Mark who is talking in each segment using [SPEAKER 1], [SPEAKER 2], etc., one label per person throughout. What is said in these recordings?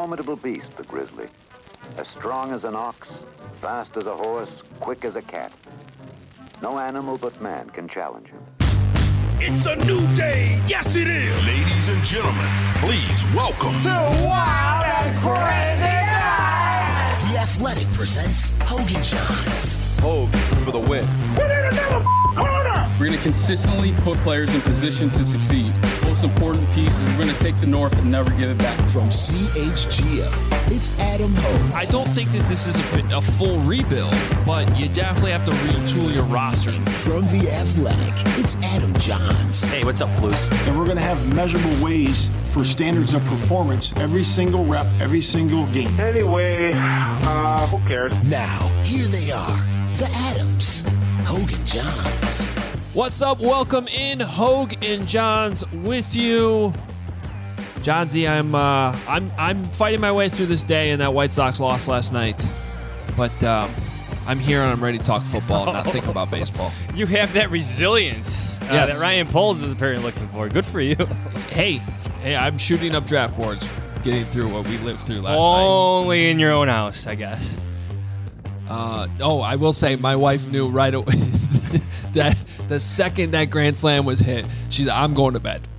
[SPEAKER 1] formidable beast, the grizzly. As strong as an ox, fast as a horse, quick as a cat. No animal but man can challenge him.
[SPEAKER 2] It's a new day. Yes, it is.
[SPEAKER 3] Ladies and gentlemen, please welcome
[SPEAKER 4] to Wild and Crazy Night.
[SPEAKER 5] The Athletic presents Hogan Johns.
[SPEAKER 6] Hogan for the win.
[SPEAKER 4] Put in another corner.
[SPEAKER 7] We're going to consistently put players in position to succeed. Most important piece is we're going to take the North and never give it back.
[SPEAKER 5] From CHGO, it's Adam Hogue.
[SPEAKER 8] I don't think that this is a full rebuild, but you definitely have to retool your roster.
[SPEAKER 5] And from The Athletic, it's Adam Johns.
[SPEAKER 9] Hey, what's up, Flus?
[SPEAKER 10] And we're going to have measurable ways for standards of performance every single rep, every single game.
[SPEAKER 11] Anyway, who cares?
[SPEAKER 5] Now, here they are, the Adams, Hogue and Johns.
[SPEAKER 8] What's up? Welcome in, Hogue and Johns with you. Johnsy, I'm fighting my way through this day, and that White Sox lost last night. But I'm here and I'm ready to talk football and not think about baseball.
[SPEAKER 9] You have that resilience that Ryan Poles is apparently looking for. Good for you.
[SPEAKER 8] Hey, I'm shooting up draft boards, getting through what we lived through last night.
[SPEAKER 9] Only in your own house, I guess.
[SPEAKER 8] I will say my wife knew right away that the second that grand slam was hit, she's I'm going to bed.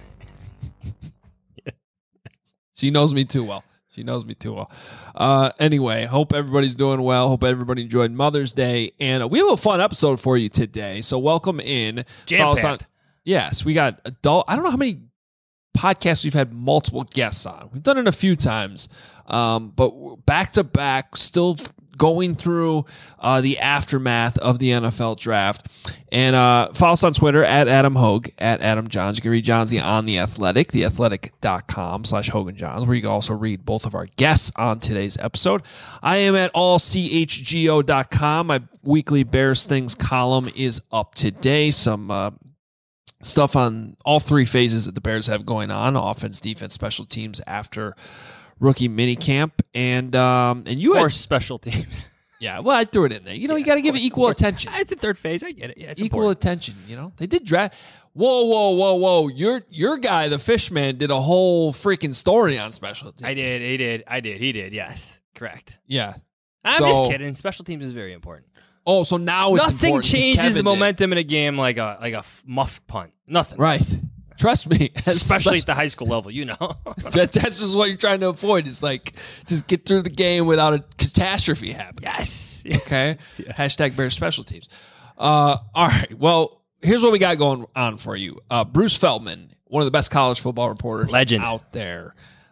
[SPEAKER 8] She knows me too well. Anyway, hope everybody's doing well. Hope everybody enjoyed Mother's Day. And we have a fun episode for you today. So welcome in.
[SPEAKER 9] Jam-packed.
[SPEAKER 8] Yes, we got adult. I don't know how many podcasts we've had multiple guests on. We've done it a few times. But back to back, still going through the aftermath of the NFL draft. And follow us on Twitter at Adam Hogue, at Adam Johns. You can read Johnsy on The Athletic, theathletic.com/HoganJohns, where you can also read both of our guests on today's episode. I am at allchgo.com. My weekly Bears Things column is up today. Some stuff on all three phases that the Bears have going on, offense, defense, special teams after rookie minicamp, and you
[SPEAKER 9] or
[SPEAKER 8] had
[SPEAKER 9] special teams.
[SPEAKER 8] Yeah, well, I threw it in there. You got to give it equal attention.
[SPEAKER 9] It's the third phase. I get it. Yeah, it's
[SPEAKER 8] equal
[SPEAKER 9] important.
[SPEAKER 8] attention. They did draft. Whoa! Your guy, the Fishman, did a whole freaking story on special teams.
[SPEAKER 9] I did. He did. Yes, correct.
[SPEAKER 8] Yeah,
[SPEAKER 9] I'm just kidding. Special teams is very important.
[SPEAKER 8] Oh, so now it's
[SPEAKER 9] nothing
[SPEAKER 8] important
[SPEAKER 9] changes the momentum in a game like a muffed punt. Nothing.
[SPEAKER 8] Right. Trust me.
[SPEAKER 9] Especially at the high school level,
[SPEAKER 8] That's just what you're trying to avoid. It's like, just get through the game without a catastrophe happening.
[SPEAKER 9] Yes.
[SPEAKER 8] Okay? Yes. Hashtag Bears Special Teams. All right. Well, here's what we got going on for you. Bruce Feldman, one of the best college football reporters
[SPEAKER 9] Legend.
[SPEAKER 8] Out there.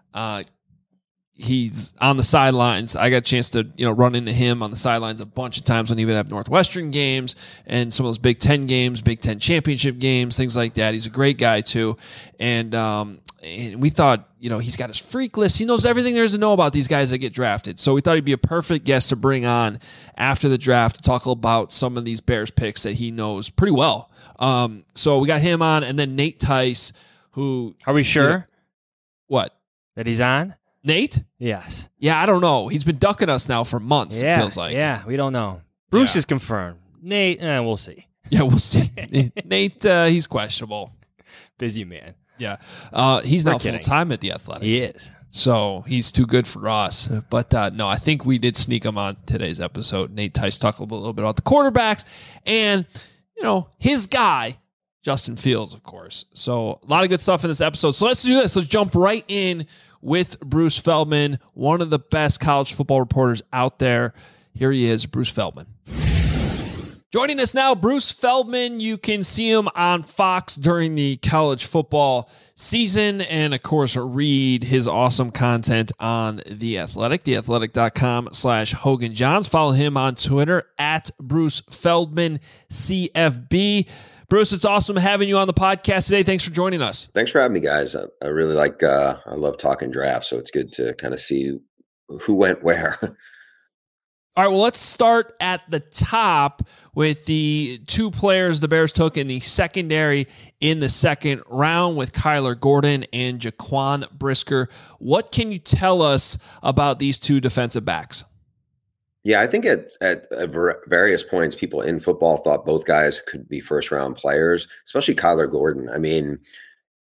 [SPEAKER 8] He's on the sidelines. I got a chance to, run into him on the sidelines a bunch of times when he would have Northwestern games and some of those Big Ten games, Big Ten championship games, things like that. He's a great guy too. And we thought, he's got his freak list. He knows everything there is to know about these guys that get drafted. So we thought he'd be a perfect guest to bring on after the draft to talk about some of these Bears picks that he knows pretty well. So we got him on, and then Nate Tice, who...
[SPEAKER 9] Are we sure?
[SPEAKER 8] What?
[SPEAKER 9] That he's on?
[SPEAKER 8] Nate?
[SPEAKER 9] Yes.
[SPEAKER 8] Yeah, I don't know. He's been ducking us now for months, it feels like.
[SPEAKER 9] Yeah, we don't know. Bruce is confirmed. Nate, we'll see.
[SPEAKER 8] Yeah, we'll see. Nate, he's questionable.
[SPEAKER 9] Busy man.
[SPEAKER 8] Yeah. He's now full-time at The Athletic.
[SPEAKER 9] He is.
[SPEAKER 8] So he's too good for us. But no, I think we did sneak him on today's episode. Nate Tice talked a little bit about the quarterbacks and, his guy, Justin Fields, of course. So a lot of good stuff in this episode. So let's do this. Let's jump right in with Bruce Feldman, one of the best college football reporters out there. Here he is, Bruce Feldman. Joining us now, Bruce Feldman. You can see him on Fox during the college football season and, of course, read his awesome content on The Athletic, theathletic.com/Hogan Johns. Follow him on Twitter at Bruce Feldman CFB. Bruce, it's awesome having you on the podcast today. Thanks for joining us.
[SPEAKER 12] Thanks for having me, guys. I really I love talking drafts, so it's good to kind of see who went where.
[SPEAKER 8] All right, well, let's start at the top with the two players the Bears took in the secondary in the second round with Kyler Gordon and Jaquan Brisker. What can you tell us about these two defensive backs?
[SPEAKER 12] Yeah, I think at various points, people in football thought both guys could be first-round players, especially Kyler Gordon. I mean,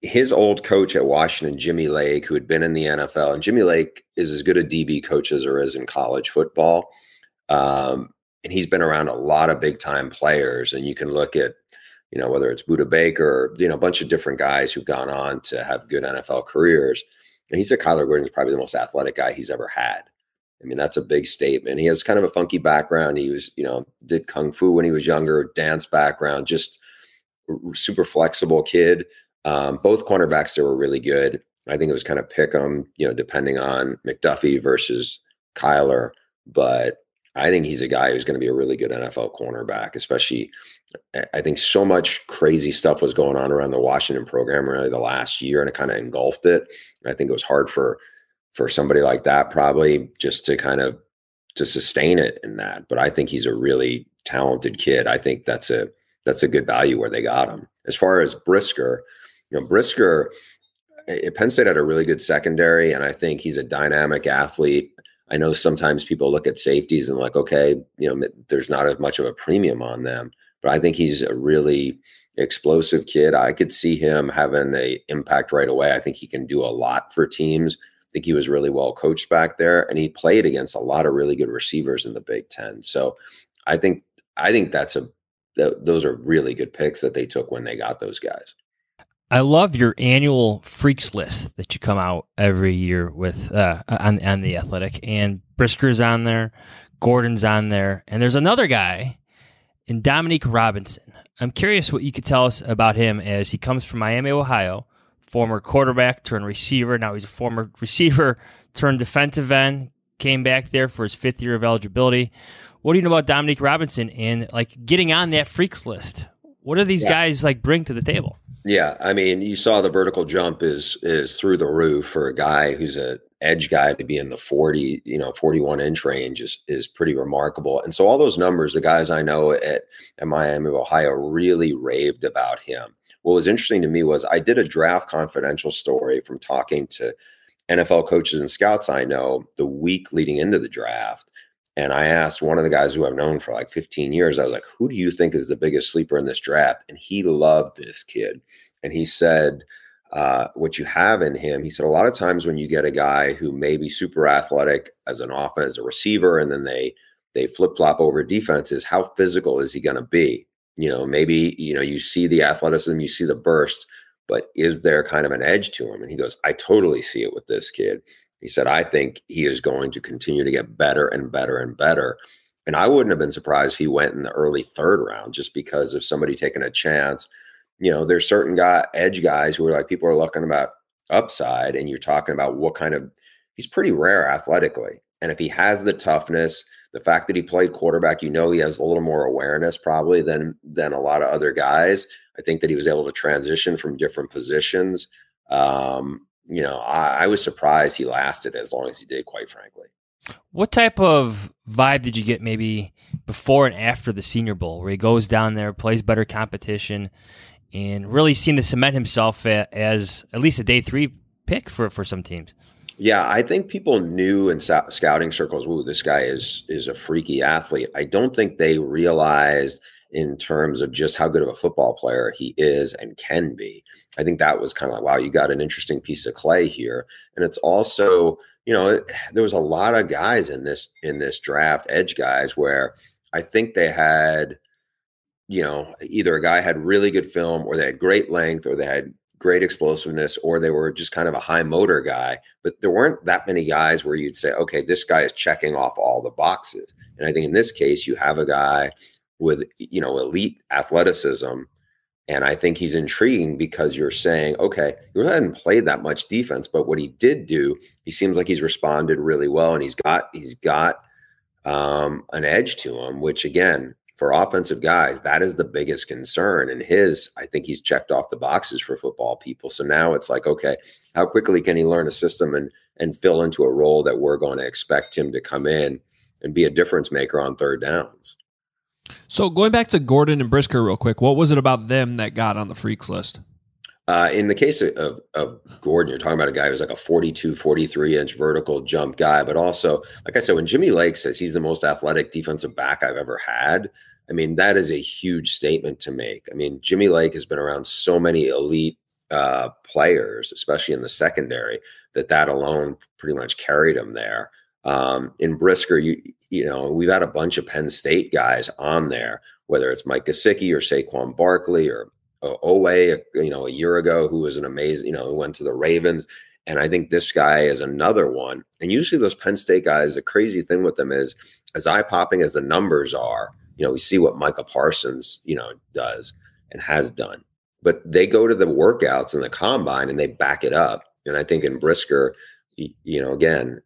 [SPEAKER 12] his old coach at Washington, Jimmy Lake, who had been in the NFL, and Jimmy Lake is as good a DB coach as there is in college football. And he's been around a lot of big time players. And you can look at, whether it's Budda Baker, a bunch of different guys who've gone on to have good NFL careers. And he said Kyler Gordon is probably the most athletic guy he's ever had. I mean, that's a big statement. He has kind of a funky background. He was, did Kung Fu when he was younger, dance background, just super flexible kid. Both cornerbacks that were really good. I think it was kind of pick 'em, depending on McDuffie versus Kyler. But I think he's a guy who's going to be a really good NFL cornerback, especially I think so much crazy stuff was going on around the Washington program really the last year, and it kind of engulfed it. And I think it was hard for somebody like that probably just to sustain it in that. But I think he's a really talented kid. I think that's a good value where they got him. As far as Brisker, Brisker, Penn State had a really good secondary, and I think he's a dynamic athlete. I know sometimes people look at safeties and like, okay, there's not as much of a premium on them, but I think he's a really explosive kid. I could see him having an impact right away. I think he can do a lot for teams. I think he was really well coached back there, and he played against a lot of really good receivers in the Big Ten. So I think those are really good picks that they took when they got those guys.
[SPEAKER 9] I love your annual freaks list that you come out every year with on The Athletic, and Brisker's on there, Gordon's on there, and there's another guy in Dominique Robinson. I'm curious what you could tell us about him, as he comes from Miami, Ohio, former quarterback turned receiver. Now he's a former receiver turned defensive end, came back there for his 5th year of eligibility. What do you know about Dominique Robinson and getting on that freaks list? What do these guys bring to the table?
[SPEAKER 12] Yeah, I mean, you saw the vertical jump is through the roof for a guy who's an edge guy to be in the 41-inch range is pretty remarkable. And so all those numbers, the guys I know at Miami, Ohio, really raved about him. What was interesting to me was I did a Draft Confidential story from talking to NFL coaches and scouts I know the week leading into the draft. And I asked one of the guys who I've known for 15 years, I was like, who do you think is the biggest sleeper in this draft? And he loved this kid. And he said, what you have in him, he said, a lot of times when you get a guy who may be super athletic as an offense, as a receiver, and then they flip-flop over defenses, how physical is he going to be? Maybe, you see the athleticism, you see the burst, but is there kind of an edge to him? And he goes, I totally see it with this kid. He said, I think he is going to continue to get better and better and better. And I wouldn't have been surprised if he went in the early 3rd round just because of somebody taking a chance. There's certain edge guys who are people are looking about upside, and you're talking about he's pretty rare athletically. And if he has the toughness, the fact that he played quarterback, he has a little more awareness probably than a lot of other guys. I think that he was able to transition from different positions. I was surprised he lasted as long as he did, quite frankly.
[SPEAKER 9] What type of vibe did you get maybe before and after the Senior Bowl, where he goes down there, plays better competition, and really seemed to cement himself as at least a day 3 pick for some teams?
[SPEAKER 12] Yeah, I think people knew in scouting circles, ooh, this guy is a freaky athlete. I don't think they realized in terms of just how good of a football player he is and can be. I think that was kind of wow, you got an interesting piece of clay here. And it's also, there was a lot of guys in this draft, edge guys, where I think they had, either a guy had really good film, or they had great length, or they had great explosiveness, or they were just kind of a high motor guy. But there weren't that many guys where you'd say, okay, this guy is checking off all the boxes. And I think in this case, you have a guy with, elite athleticism. And I think he's intriguing because you're saying, okay, he hadn't played that much defense, but what he did do, he seems like he's responded really well, and he's got an edge to him, which again, for offensive guys, that is the biggest concern. And I think he's checked off the boxes for football people. So now it's like, okay, how quickly can he learn a system and fill into a role that we're going to expect him to come in and be a difference maker on 3rd downs?
[SPEAKER 8] So going back to Gordon and Brisker real quick, what was it about them that got on the freaks list?
[SPEAKER 12] In the case of Gordon, you're talking about a guy who's like a 42, 43-inch vertical jump guy, but also, like I said, when Jimmy Lake says he's the most athletic defensive back I've ever had, I mean, that is a huge statement to make. I mean, Jimmy Lake has been around so many elite players, especially in the secondary, that alone pretty much carried him there. In Brisker, you know, we've had a bunch of Penn State guys on there, whether it's Mike Gesicki or Saquon Barkley or Owe, you know, a year ago, who was an amazing, you know, who went to the Ravens. And I think this guy is another one. And usually those Penn State guys, the crazy thing with them is, as eye-popping as the numbers are, you know, we see what Micah Parsons, you know, does and has done. But they go to the workouts and the combine and they back it up. And I think in Brisker, you know, again,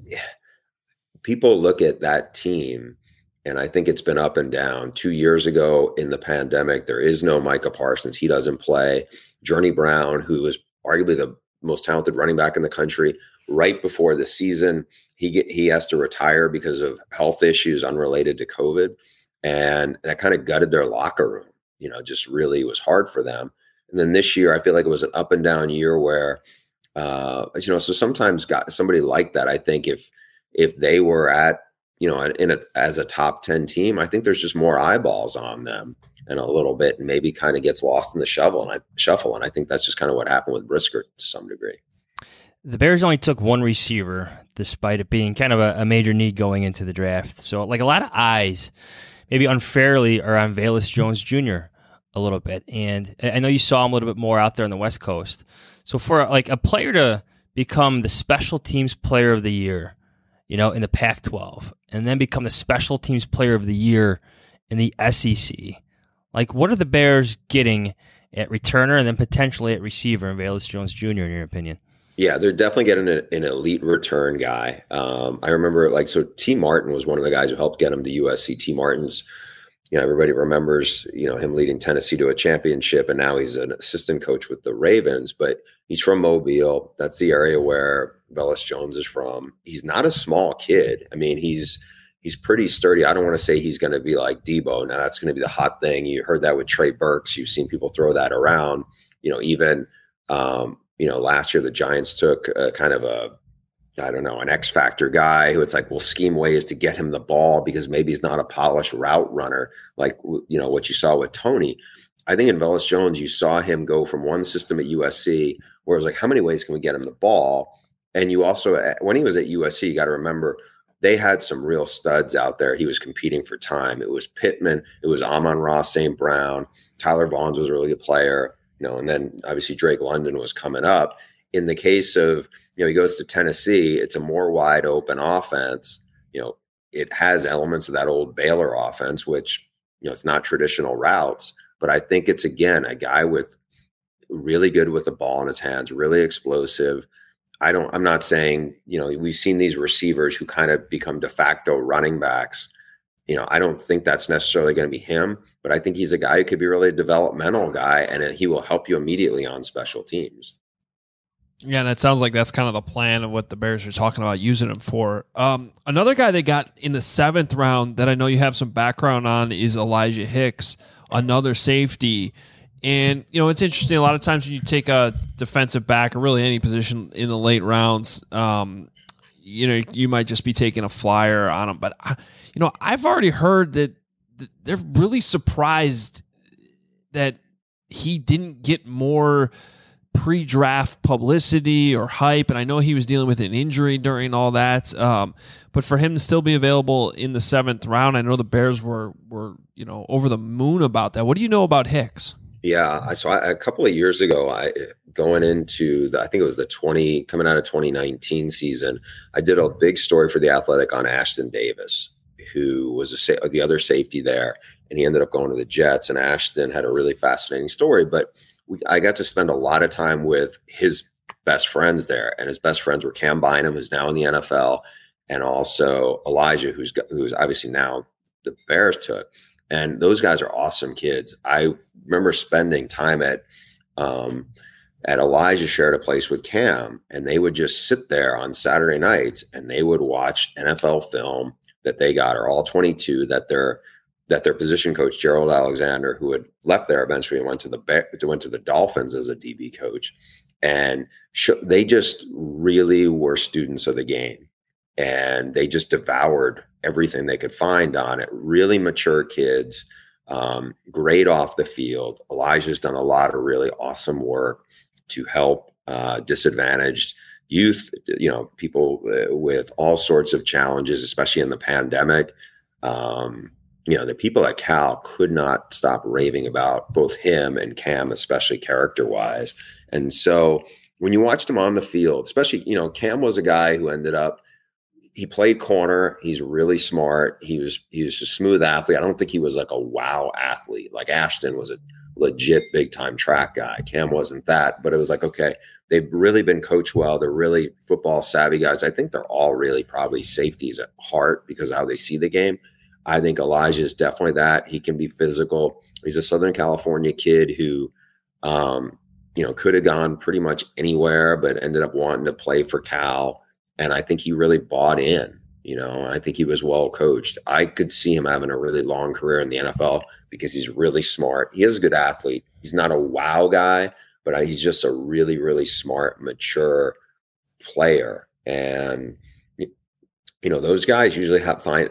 [SPEAKER 12] people look at that team, and I think it's been up and down. 2 years ago in the pandemic, there is no Micah Parsons. He doesn't play. Journey Brown, who is arguably the most talented running back in the country, right before the season, he has to retire because of health issues unrelated to COVID. And that kind of gutted their locker room, you know, just really was hard for them. And then this year, I feel like it was an up and down year where, you know, so sometimes got somebody like that. I think if they were at, you know, as a top 10 team, I think there's just more eyeballs on them and a little bit, and maybe kind of gets lost in the shuffle. And I think that's just kind of what happened with Brisker to some degree.
[SPEAKER 9] The Bears only took one receiver, despite it being kind of a major need going into the draft. So, like, a lot of eyes, maybe unfairly, are on Velus Jones Jr. a little bit. And I know you saw him a little bit more out there on the West Coast. So for like a player to become the special teams player of the year, you know, in the Pac-12, and then become the special teams player of the year in the SEC, like, what are the Bears getting at returner and then potentially at receiver in Velus Jones Jr., in your opinion?
[SPEAKER 12] Yeah, they're definitely getting an elite return guy. I remember, like, so T. Martin was one of the guys who helped get him to USC. T. Martin's, you know, everybody remembers, you know, him leading Tennessee to a championship, and now he's an assistant coach with the Ravens, but he's from Mobile. That's the area where Velus Jones is from. He's not a small kid. I mean, he's pretty sturdy. I don't want to say he's going to be like Debo. Now, that's going to be the hot thing. You heard that with Trey Burks. You've seen people throw that around. You know, even, you know, last year the Giants took kind of an X factor guy who it's like, we'll scheme ways to get him the ball because maybe he's not a polished route runner, like, you know, what you saw with Tony. I think in Velus Jones, you saw him go from one system at USC where it was like, how many ways can we get him the ball? And you also, when he was at USC, you got to remember, they had some real studs out there. He was competing for time. It was Pittman. It was Amon-Ra St. Brown. Tyler Vaughns was a really good player, you know, and then obviously Drake London was coming up. In the case of, you know, he goes to Tennessee, it's a more wide open offense. You know, it has elements of that old Baylor offense, which, you know, it's not traditional routes, but I think it's, again, a guy with really good with the ball in his hands, really explosive. I'm not saying, you know, we've seen these receivers who kind of become de facto running backs. You know, I don't think that's necessarily going to be him, but I think he's a guy who could be really a developmental guy, and he will help you immediately on special teams.
[SPEAKER 8] Yeah, and it sounds like that's kind of the plan of what the Bears are talking about using him for. Another guy they got in the 7th round that I know you have some background on is Elijah Hicks, another safety. And, you know, it's interesting. A lot of times when you take a defensive back or really any position in the late rounds, you know, you might just be taking a flyer on them. But, you know, I've already heard that they're really surprised that he didn't get more pre-draft publicity or hype. And I know he was dealing with an injury during all that. But for him to still be available in the 7th round, I know the Bears were, you know, over the moon about that. What do you know about Hicks?
[SPEAKER 12] Yeah, so a couple of years ago, going into I think it was coming out of 2019 season, I did a big story for The Athletic on Ashton Davis, who was the other safety there, and he ended up going to the Jets. And Ashton had a really fascinating story, but I got to spend a lot of time with his best friends there, and his best friends were Cam Bynum, who's now in the NFL, and also Elijah, who's obviously now the Bears took. And those guys are awesome kids. I remember spending time at Elijah shared a place with Cam, and they would just sit there on Saturday nights and they would watch NFL film that they got, or all 22 that their position coach, Gerald Alexander, who had left there eventually and went to the Dolphins as a DB coach. And they just really were students of the game. And they just devoured everything they could find on it. Really mature kids, great off the field. Elijah's done a lot of really awesome work. to help disadvantaged youth, people with all sorts of challenges, especially in the pandemic. The people at Cal could not stop raving about both him and Cam, especially character-wise. And so when you watched him on the field, especially, Cam was a guy who he played corner. He's really smart. He was a smooth athlete. I don't think he was like a wow athlete. Like Ashton was a legit big-time track guy. Cam wasn't that, but it was like, okay, they've really been coached well. They're really football savvy guys. I think they're all really probably safeties at heart because of how they see the game. I think Elijah is definitely that. He can be physical. He's a Southern California kid who, could have gone pretty much anywhere, but ended up wanting to play for Cal. And I think he really bought in, and I think he was well coached. I could see him having a really long career in the NFL because he's really smart. He is a good athlete. He's not a wow guy, but he's just a really, really smart, mature player. And, those guys usually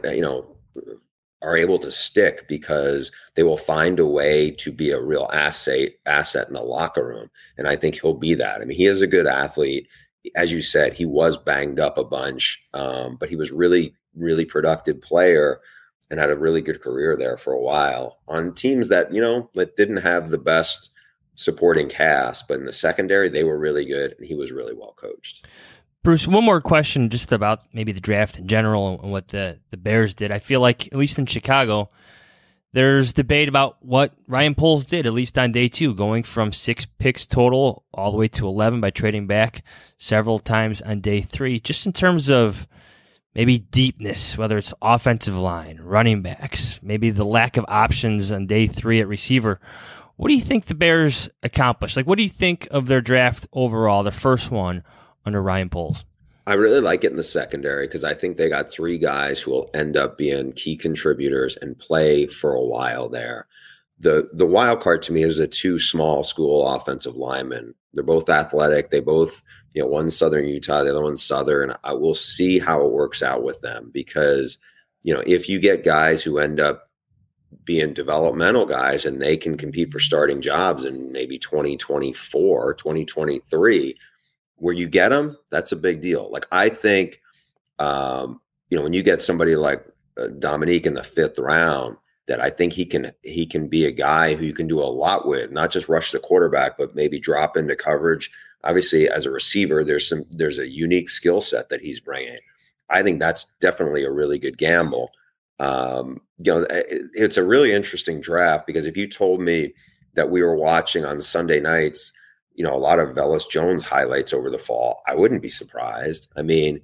[SPEAKER 12] are able to stick because they will find a way to be a real asset in the locker room. And I think he'll be that. I mean, he is a good athlete. As you said, he was banged up a bunch, but he was really, really productive player and had a really good career there for a while on teams that, that didn't have the best supporting cast, but in the secondary, they were really good and he was really well coached.
[SPEAKER 9] Bruce, one more question just about maybe the draft in general and what the Bears did. I feel like, at least in Chicago, there's debate about what Ryan Poles did, at least on day 2, going from 6 picks total all the way to 11 by trading back several times on day 3. Just in terms of maybe deepness, whether it's offensive line, running backs, maybe the lack of options on day 3 at receiver. What do you think the Bears accomplished? Like, what do you think of their draft overall, the first one, under Ryan Poles?
[SPEAKER 12] I really like it in the secondary because I think they got 3 guys who will end up being key contributors and play for a while there. The wild card to me is the 2 small school offensive linemen. They're both athletic. They both, one's Southern Utah, the other one's Southern. I will see how it works out with them because, if you get guys who end up being developmental guys and they can compete for starting jobs in maybe 2024, 2023, where you get them, that's a big deal. Like, I think, when you get somebody like Dominique in the 5th round, that I think he can be a guy who you can do a lot with, not just rush the quarterback, but maybe drop into coverage. Obviously, as a receiver, there's a unique skill set that he's bringing. I think that's definitely a really good gamble. It's a really interesting draft because if you told me that we were watching on Sunday nights, a lot of Velus Jones highlights over the fall, I wouldn't be surprised. I mean,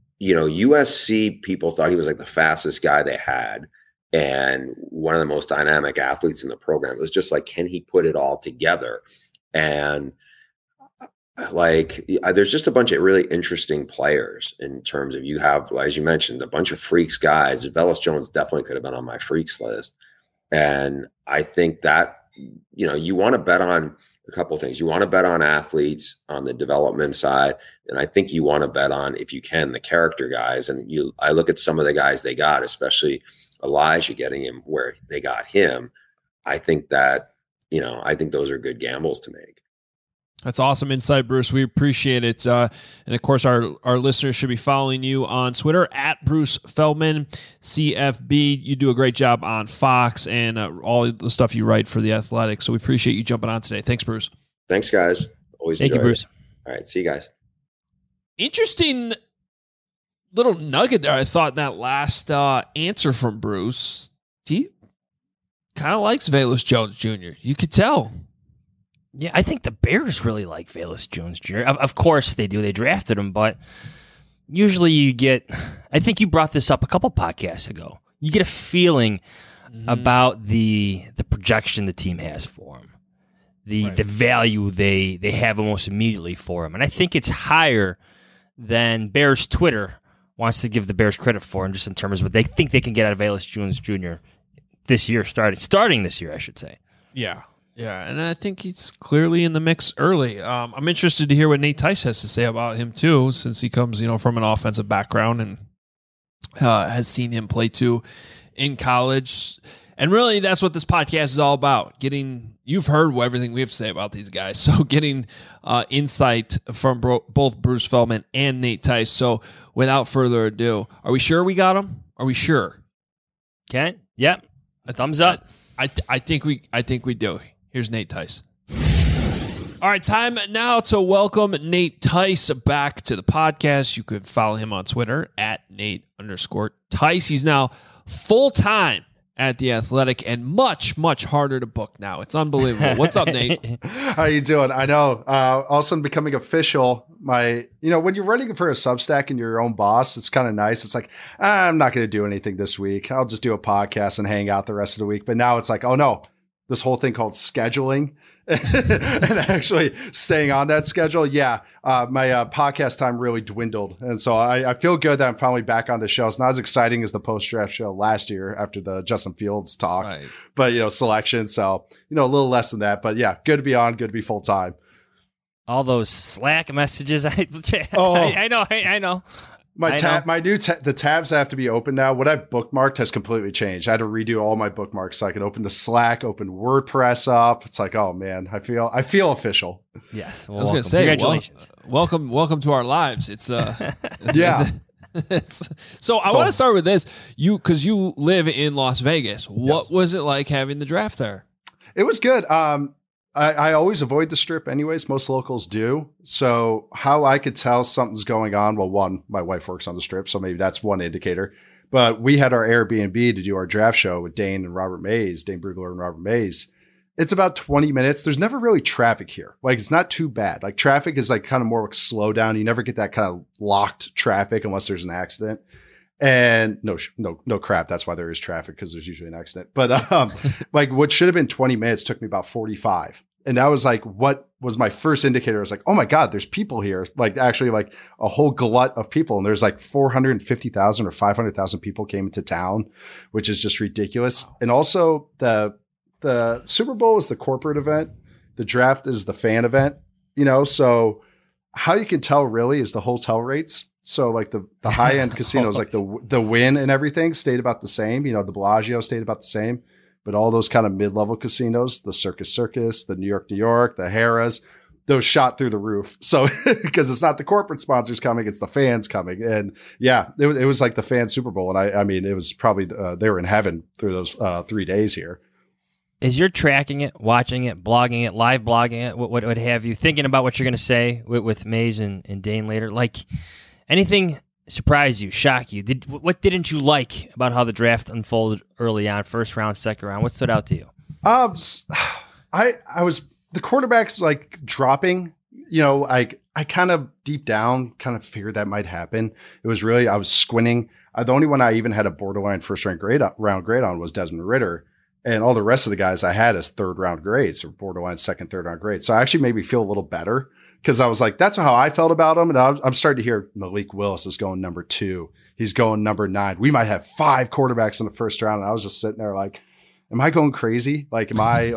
[SPEAKER 12] USC people thought he was like the fastest guy they had and one of the most dynamic athletes in the program. It was just like, can he put it all together? And there's just a bunch of really interesting players in terms of, you have, as you mentioned, a bunch of freaks guys. Velus Jones definitely could have been on my freaks list. And I think that, you want to bet on a couple of things. You want to bet on athletes on the development side. And I think you want to bet on, if you can, the character guys. And I look at some of the guys they got, especially Elijah, getting him where they got him. I think that, I think those are good gambles to make.
[SPEAKER 8] That's awesome insight, Bruce. We appreciate it. And of course, our listeners should be following you on Twitter at Bruce Feldman, CFB. You do a great job on Fox and all the stuff you write for The Athletic. So we appreciate you jumping on today. Thanks, Bruce.
[SPEAKER 12] Thanks, guys. Always
[SPEAKER 9] Thank you, Bruce.
[SPEAKER 12] It. All right. See you guys.
[SPEAKER 8] Interesting little nugget there. I thought in that last answer from Bruce, he kind of likes Velus Jones Jr. You could tell.
[SPEAKER 9] Yeah, I think the Bears really like Velus Jones Jr. Of course they do. They drafted him, but usually you get, I think you brought this up a couple podcasts ago, you get a feeling about the projection the team has for him, the value they have almost immediately for him. And I think it's higher than Bears Twitter wants to give the Bears credit for him, just in terms of what they think they can get out of Velus Jones Jr. this year, starting this year, I should say.
[SPEAKER 8] Yeah. Yeah, and I think he's clearly in the mix early. I'm interested to hear what Nate Tice has to say about him, too, since he comes, from an offensive background and has seen him play, too, in college. And really, that's what this podcast is all about. You've heard everything we have to say about these guys. So getting insight from both Bruce Feldman and Nate Tice. So without further ado, are we sure we got them? Are we sure?
[SPEAKER 9] Ken? Yep. A thumbs up.
[SPEAKER 8] I think we do. Here's Nate Tice. All right, time now to welcome Nate Tice back to the podcast. You could follow him on Twitter at Nate_Tice. He's now full-time at The Athletic and much, much harder to book now. It's unbelievable. What's up, Nate?
[SPEAKER 6] How you doing? I know. All of a sudden becoming official. When you're running for a Substack and you're your own boss, it's kind of nice. It's like, I'm not going to do anything this week. I'll just do a podcast and hang out the rest of the week. But now it's like, oh no, this whole thing called scheduling and actually staying on that schedule. Yeah. My podcast time really dwindled. And so I feel good that I'm finally back on the show. It's not as exciting as the post-draft show last year after the Justin Fields talk, right. But selection. So, a little less than that, but yeah, good to be on, good to be full time.
[SPEAKER 9] All those Slack messages. I know.
[SPEAKER 6] The tabs have to be open now. What I've bookmarked has completely changed. I had to redo all my bookmarks so I could open the Slack, open WordPress up. It's like, oh man, I feel official.
[SPEAKER 9] Yes.
[SPEAKER 8] Well, I was going to say, congratulations. Welcome to our lives. It's
[SPEAKER 6] yeah.
[SPEAKER 8] So I want to start with this. Because you live in Las Vegas. What was it like having the draft there?
[SPEAKER 6] It was good. I always avoid the Strip anyways. Most locals do. So how I could tell something's going on, well, one, my wife works on the Strip, so maybe that's one indicator. But we had our Airbnb to do our draft show with Dane Brugler and Robert Mays. It's about 20 minutes. There's never really traffic here. Like, it's not too bad. Like, traffic is like kind of more like slow down. You never get that kind of locked traffic unless there's an accident. And no crap. That's why there is traffic, because there's usually an accident. But like what should have been 20 minutes took me about 45. And that was like what was my first indicator. I was like, oh my God, there's people here. Like actually like a whole glut of people. And there's like 450,000 or 500,000 people came into town, which is just ridiculous. And also the Super Bowl is the corporate event. The draft is the fan event, so how you can tell really is the hotel rates. So like the high end casinos, like the Wynn and everything stayed about the same. The Bellagio stayed about the same, but all those kind of mid-level casinos, the Circus, the New York, the Harrah's, those shot through the roof. So because it's not the corporate sponsors coming, it's the fans coming. And yeah, it was like the fan Super Bowl. And I mean, it was probably they were in heaven through those 3 days here.
[SPEAKER 9] As you're tracking it, watching it, blogging it, live blogging it, what have you, thinking about what you're going to say with Mays and Dane later, like anything surprise you, shock you? What didn't you like about how the draft unfolded early on, first round, second round? What stood out to you?
[SPEAKER 6] I was the quarterbacks like dropping. I kind of deep down kind of figured that might happen. It was really I was squinting. The only one I even had a borderline first round grade on was Desmond Ridder. And all the rest of the guys I had as third round grades or borderline second, third round grades. So I actually made me feel a little better because I was like, that's how I felt about him. And I'm starting to hear Malik Willis is going number 2. He's going number 9. We might have 5 quarterbacks in the first round. And I was just sitting there like, am I going crazy? I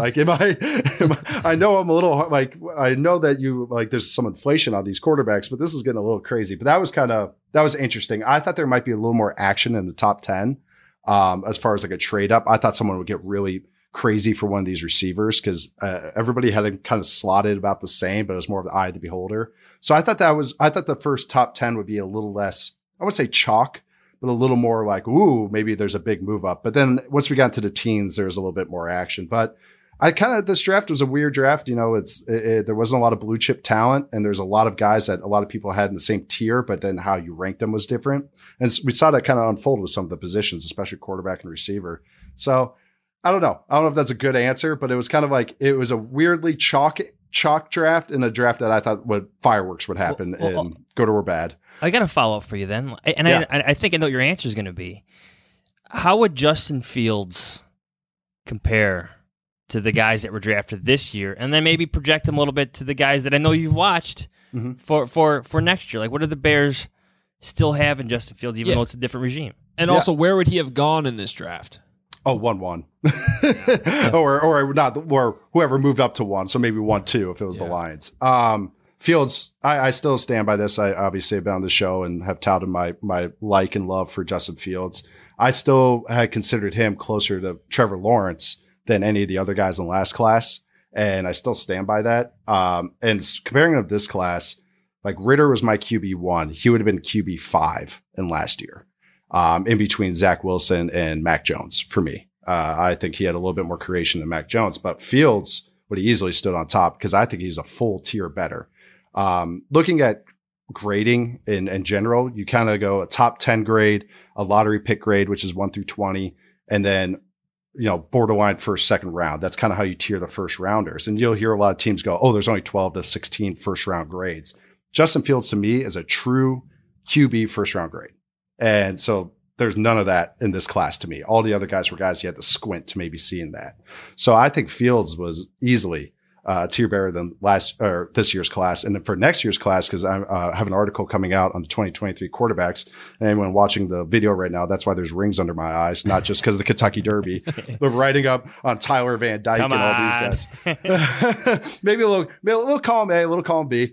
[SPEAKER 6] know I'm a little like, I know that there's some inflation on these quarterbacks, but this is getting a little crazy. But that was interesting. I thought there might be a little more action in the top 10. As far as like a trade up, I thought someone would get really crazy for one of these receivers because everybody had it kind of slotted about the same, but it was more of the eye of the beholder. So I thought the first top 10 would be a little less, I wouldn't say chalk, but a little more like, ooh, maybe there's a big move up. But then once we got into the teens, there was a little bit more action. But this draft was a weird draft. There wasn't a lot of blue chip talent, and there's a lot of guys that a lot of people had in the same tier, but then how you ranked them was different. And we saw that kind of unfold with some of the positions, especially quarterback and receiver. So I don't know. I don't know if that's a good answer, but it was kind of like, it was a weirdly chalk draft and a draft that I thought fireworks would happen and good or bad.
[SPEAKER 9] I got to follow up for you then. And yeah. I think I know what your answer is going to be. How would Justin Fields compare to the guys that were drafted this year, and then maybe project them a little bit to the guys that I know you've watched for next year? Like, what do the Bears still have in Justin Fields, even though it's a different regime?
[SPEAKER 8] And also, where would he have gone in this draft?
[SPEAKER 6] Oh, 1-1. or not, or whoever moved up to 1. So maybe 1-2 if it was the Lions. Fields, I still stand by this. I obviously have been on the show and have touted my like and love for Justin Fields. I still had considered him closer to Trevor Lawrence than any of the other guys in the last class. And I still stand by that. And comparing him to this class, like Ritter was my QB1. He would have been QB5 in last year, in between Zach Wilson and Mac Jones for me. I think he had a little bit more creation than Mac Jones, but Fields would have easily stood on top because I think he's a full tier better. Looking at grading in general, you kind of go a top 10 grade, a lottery pick grade, which is 1 through 20, and then, borderline first, second round. That's kind of how you tier the first rounders. And you'll hear a lot of teams go, oh, there's only 12 to 16 first round grades. Justin Fields to me is a true QB first round grade. And so there's none of that in this class to me. All the other guys were guys you had to squint to maybe seeing that. So I think Fields was easily tier better than this year's class. And then for next year's class, because I have an article coming out on the 2023 quarterbacks. And anyone watching the video right now, that's why there's rings under my eyes, not just because of the Kentucky Derby, but writing up on Tyler Van Dyke and all these guys. Maybe a little column A, a little column B.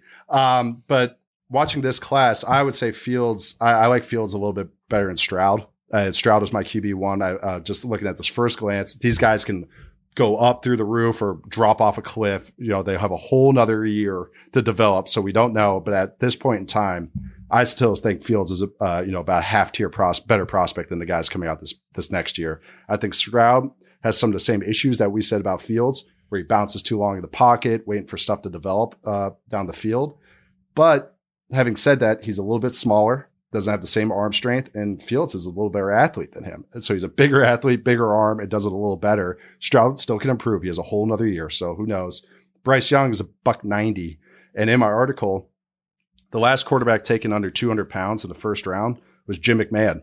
[SPEAKER 6] But watching this class, I would say Fields, I like Fields a little bit better than Stroud. Stroud was my QB1. Just looking at this first glance, these guys can go up through the roof or drop off a cliff. They have a whole nother year to develop. So we don't know. But at this point in time, I still think Fields is, about a half tier better prospect than the guys coming out this next year. I think Stroud has some of the same issues that we said about Fields, where he bounces too long in the pocket, waiting for stuff to develop down the field. But having said that, he's a little bit smaller, doesn't have the same arm strength, and Fields is a little better athlete than him. And so he's a bigger athlete, bigger arm, and does it a little better. Stroud still can improve. He has a whole nother year, so who knows? Bryce Young is a $190. And in my article, the last quarterback taken under 200 pounds in the first round was Jim McMahon.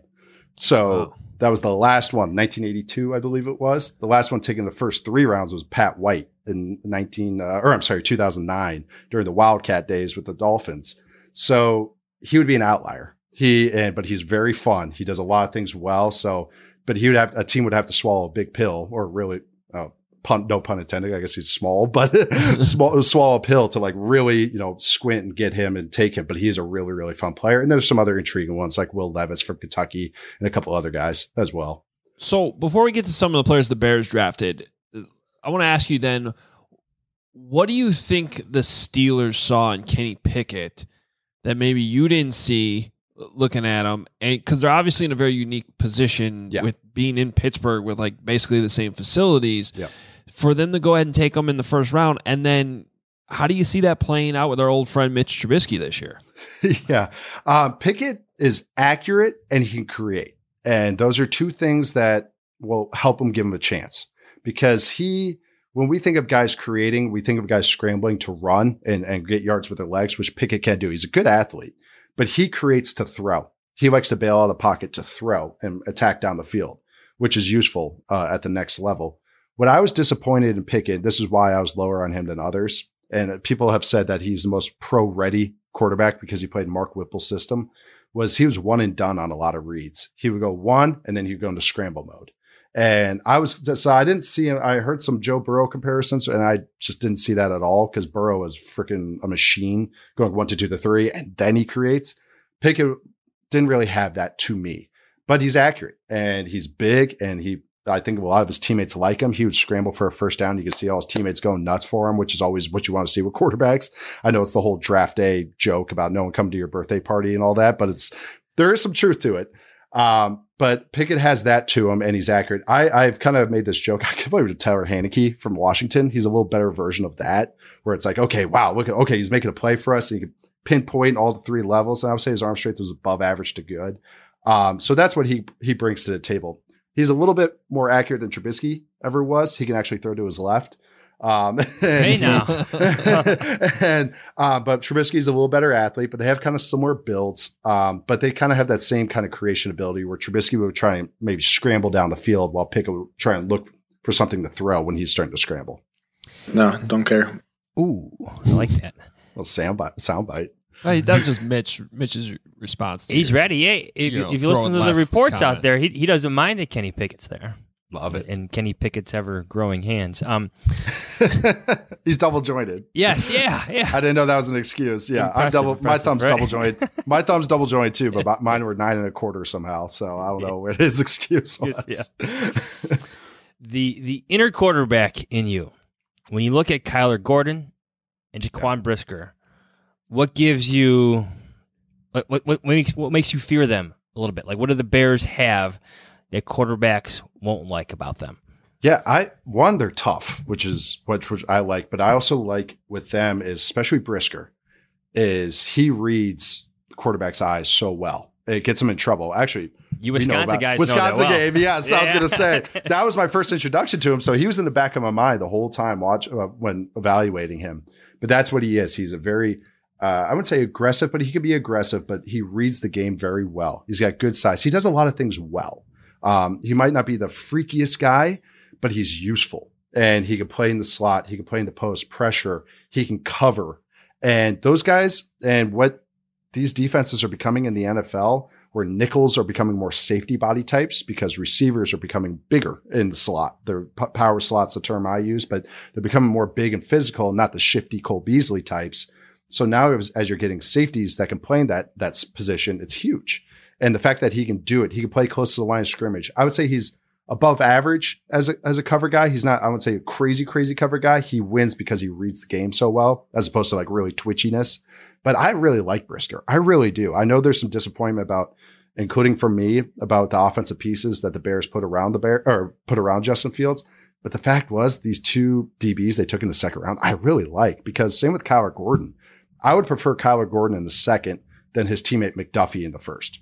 [SPEAKER 6] So that was the last one, 1982, I believe it was. The last one taken in the first 3 rounds was Pat White in 2009 during the Wildcat days with the Dolphins. So he would be an outlier. But he's very fun. He does a lot of things well. But a team would have to swallow a big pill, or really, no pun intended. I guess he's small, but swallow a pill to like really, squint and get him and take him. But he is a really, really fun player. And there's some other intriguing ones like Will Levis from Kentucky and a couple other guys as well.
[SPEAKER 8] So before we get to some of the players the Bears drafted, I want to ask you then, what do you think the Steelers saw in Kenny Pickett that maybe you didn't see looking at them? And because they're obviously in a very unique position with being in Pittsburgh with like basically the same facilities, for them to go ahead and take them in the first round. And then how do you see that playing out with our old friend Mitch Trubisky this year?
[SPEAKER 6] Pickett is accurate and he can create. And those are two things that will help him give him a chance, because when we think of guys creating, we think of guys scrambling to run and get yards with their legs, which Pickett can do. He's a good athlete, but he creates to throw. He likes to bail out of the pocket to throw and attack down the field, which is useful at the next level. What I was disappointed in Pickett, this is why I was lower on him than others, and people have said that he's the most pro-ready quarterback because he played Mark Whipple's system, was he was one and done on a lot of reads. He would go one, and then he'd go into scramble mode. And I didn't see him. I heard some Joe Burrow comparisons, and I just didn't see that at all, because Burrow is freaking a machine going 1 to 2 to 3, and then he creates. Pickett didn't really have that to me, but he's accurate and he's big, and I think a lot of his teammates like him. He would scramble for a first down. You could see all his teammates going nuts for him, which is always what you want to see with quarterbacks. I know it's the whole draft day joke about no one coming to your birthday party and all that, but there is some truth to it. But Pickett has that to him, and he's accurate. I've kind of made this joke. I compared to Taylor Heineke from Washington. He's a little better version of that, where it's like, okay, wow, he's making a play for us, and he can pinpoint all the 3 levels. And I would say his arm strength was above average to good. So that's what he brings to the table. He's a little bit more accurate than Trubisky ever was. He can actually throw to his left.
[SPEAKER 9] Hey now.
[SPEAKER 6] But Trubisky's a little better athlete, but they have kind of similar builds. But they kind of have that same kind of creation ability, where Trubisky would try and maybe scramble down the field while Pickett would try and look for something to throw when he's starting to scramble.
[SPEAKER 10] No, don't care.
[SPEAKER 9] Ooh, I like that.
[SPEAKER 6] Well, soundbite.
[SPEAKER 8] That was just Mitch's response.
[SPEAKER 9] He's ready. Hey, if you listen to the reports out there, he doesn't mind that Kenny Pickett's there.
[SPEAKER 6] Love it.
[SPEAKER 9] And Kenny Pickett's ever growing hands.
[SPEAKER 6] He's double jointed.
[SPEAKER 9] Yes, yeah.
[SPEAKER 6] I didn't know that was an excuse. Yeah, my thumb's double jointed. My thumb's double jointed too, but mine were 9 1/4 somehow. So I don't know what his excuse was.
[SPEAKER 9] Yeah. The inner quarterback in you, when you look at Kyler Gordon and Jaquan Brisker, what gives you, what makes you fear them a little bit? Like, what do the Bears have that quarterbacks won't like about them?
[SPEAKER 6] Yeah, they're tough, which I like, but I also like with them is, especially Brisker, is he reads the quarterback's eyes so well. It gets him in trouble. Actually,
[SPEAKER 9] you Wisconsin guys
[SPEAKER 6] Wisconsin
[SPEAKER 9] know that well.
[SPEAKER 6] game, yes. I was going to say that was my first introduction to him, so he was in the back of my mind the whole time when evaluating him. But that's what he is. He's a very I wouldn't say aggressive, but he can be aggressive, but he reads the game very well. He's got good size. He does a lot of things well. He might not be the freakiest guy, but he's useful, and he can play in the slot. He can play in the post, pressure. He can cover. And those guys, and what these defenses are becoming in the NFL, where nickels are becoming more safety body types because receivers are becoming bigger in the slot. They're power slots, the term I use, but they're becoming more big and physical, not the shifty Cole Beasley types. So now as you're getting safeties that can play in that position, it's huge. And the fact that he can do it, he can play close to the line of scrimmage. I would say he's above average as a cover guy. He's not, I would say, a crazy cover guy. He wins because he reads the game so well, as opposed to like really twitchiness. But I really like Brisker. I really do. I know there's some disappointment about, including for me, about the offensive pieces that the Bears put around put around Justin Fields. But the fact was, these two DBs they took in the second round, I really like, because same with Kyler Gordon. I would prefer Kyler Gordon in the second than his teammate McDuffie in the first.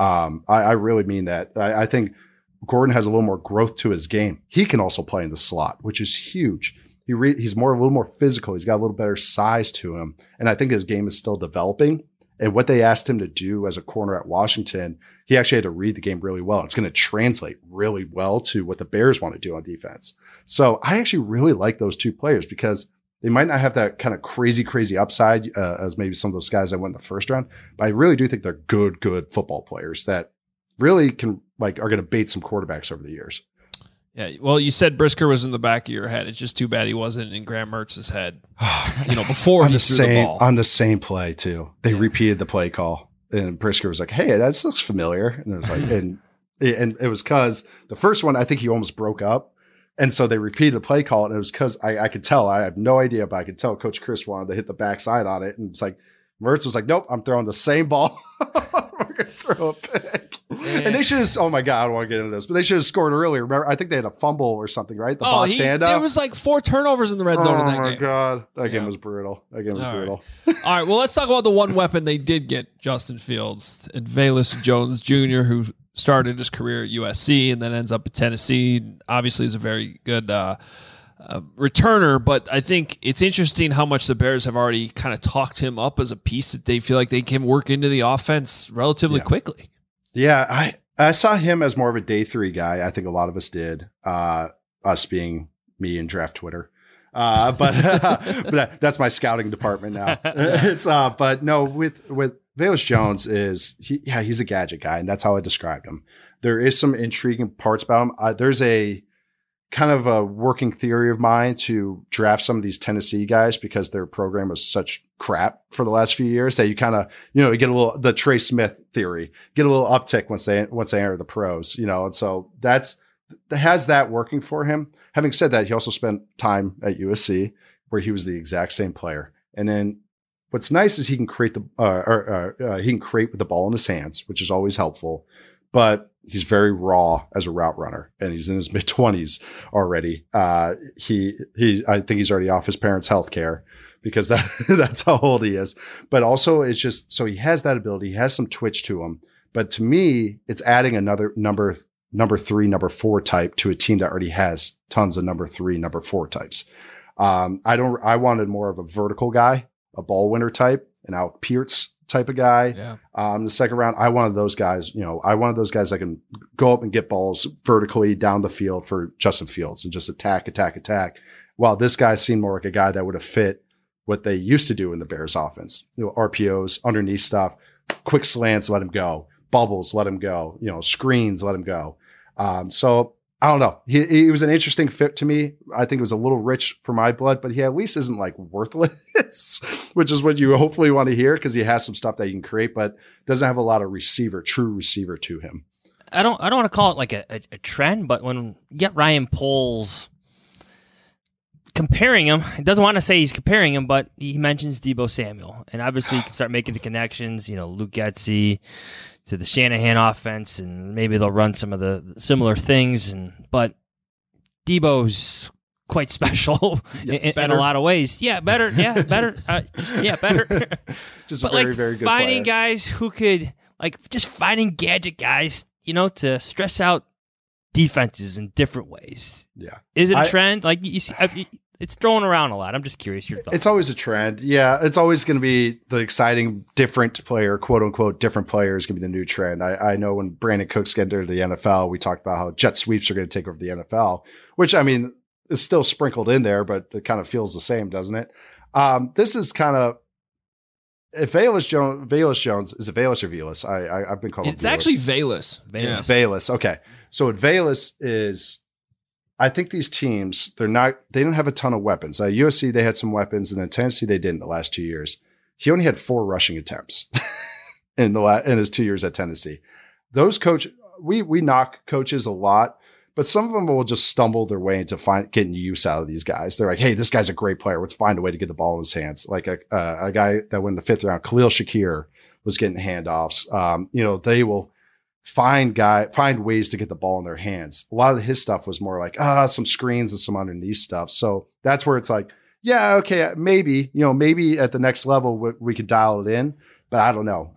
[SPEAKER 6] I really mean that. I think Gordon has a little more growth to his game. He can also play in the slot, which is huge. He's a little more physical. He's got a little better size to him. And I think his game is still developing. And what they asked him to do as a corner at Washington, he actually had to read the game really well. It's going to translate really well to what the Bears want to do on defense. So I actually really like those two players because they might not have that kind of crazy upside as maybe some of those guys that went in the first round, but I really do think they're good football players that really are going to bait some quarterbacks over the years.
[SPEAKER 8] Yeah, well, you said Brisker was in the back of your head. It's just too bad he wasn't in Graham Mertz's head. Before he threw the ball
[SPEAKER 6] on the same play too. They repeated the play call, and Brisker was like, "Hey, that looks familiar," and it was like, and it was because the first one I think he almost broke up. And so they repeated the play call, and it was because I could tell. I have no idea, but I could tell Coach Chris wanted to hit the backside on it. And it's like, Mertz was like, nope, I'm throwing the same ball. We're going to throw a pick. Yeah. And they should have, oh my God, I don't want to get into this, but they should have scored earlier. Remember, I think they had a fumble or something, right? The botched handout.
[SPEAKER 8] There was like 4 turnovers in the red zone in that game.
[SPEAKER 6] Oh my God. That game was brutal. Brutal.
[SPEAKER 8] All right. Well, let's talk about the one weapon they did get Justin Fields and Velus Jones Jr., who started his career at USC and then ends up at Tennessee. Obviously, is a very good returner, but I think it's interesting how much the Bears have already kind of talked him up as a piece that they feel like they can work into the offense relatively quickly.
[SPEAKER 6] Yeah, I saw him as more of a day 3 guy. I think a lot of us did, us being me and Draft Twitter. But that's my scouting department now. But no, with Velus Jones he's a gadget guy, and that's how I described him. There is some intriguing parts about him. There's a kind of a working theory of mine to draft some of these Tennessee guys because their program was such crap for the last few years that you kind of, you get a little, the Trey Smith theory, get a little uptick once they enter the pros, and so that has that working for him. Having said that, he also spent time at USC where he was the exact same player. And then what's nice is he can create he can create with the ball in his hands, which is always helpful, but he's very raw as a route runner, and he's in his mid-20s already. I think he's already off his parents' health care because that's how old he is. But also it's just, so he has that ability. He has some twitch to him. But to me, it's adding another number 3, number 4 type to a team that already has tons of number 3, number 4 types. I wanted more of a vertical guy, a ball winner type, an Alec Pierce type of guy. Yeah. The second round, I wanted those guys, I wanted those guys that can go up and get balls vertically down the field for Justin Fields and just attack. While this guy seemed more like a guy that would have fit what they used to do in the Bears offense, RPOs, underneath stuff, quick slants, let him go, bubbles, let him go, screens, let him go. So I don't know. He was an interesting fit to me. I think it was a little rich for my blood, but he at least isn't like worthless, which is what you hopefully want to hear because he has some stuff that you can create, but doesn't have a lot of true receiver to him.
[SPEAKER 9] I don't want to call it like a trend, but when you get Ryan Poles comparing him, he doesn't want to say he's comparing him, but he mentions Deebo Samuel, and obviously you can start making the connections. Luke Getsy to the Shanahan offense, and maybe they'll run some of the similar things. But Deebo's quite special in a lot of ways. Yeah, better. Yeah, better. Better.
[SPEAKER 6] Just a very, very good
[SPEAKER 9] finding
[SPEAKER 6] player.
[SPEAKER 9] guys who could just finding gadget guys, to stress out defenses in different ways.
[SPEAKER 6] Yeah,
[SPEAKER 9] is it a trend? Like you see, it's thrown around a lot. I'm just curious your thoughts.
[SPEAKER 6] It's always a trend. Yeah, it's always going to be the exciting, different player, quote unquote, different player is going to be the new trend. I know when Brandon Cooks got into the NFL, we talked about how jet sweeps are going to take over the NFL, which is still sprinkled in there, but it kind of feels the same, doesn't it? This is kind of, if Velus Jones, is it Velus or Velus? I've been calling
[SPEAKER 8] it's actually Velus.
[SPEAKER 6] It's Velus. Okay. So what Velus is, I think these teams, they don't have a ton of weapons. USC, they had some weapons, and then Tennessee, they didn't the last 2 years. He only had 4 rushing attempts in his 2 years at Tennessee. Those we knock coaches a lot, but some of them will just stumble their way into getting use out of these guys. They're like, hey, this guy's a great player. Let's find a way to get the ball in his hands. Like a guy that went in the 5th round, Khalil Shakir, was getting handoffs. They will find ways to get the ball in their hands. A lot of his stuff was more like some screens and some underneath stuff. So that's where it's like, yeah, okay, maybe at the next level we could dial it in, but I don't know.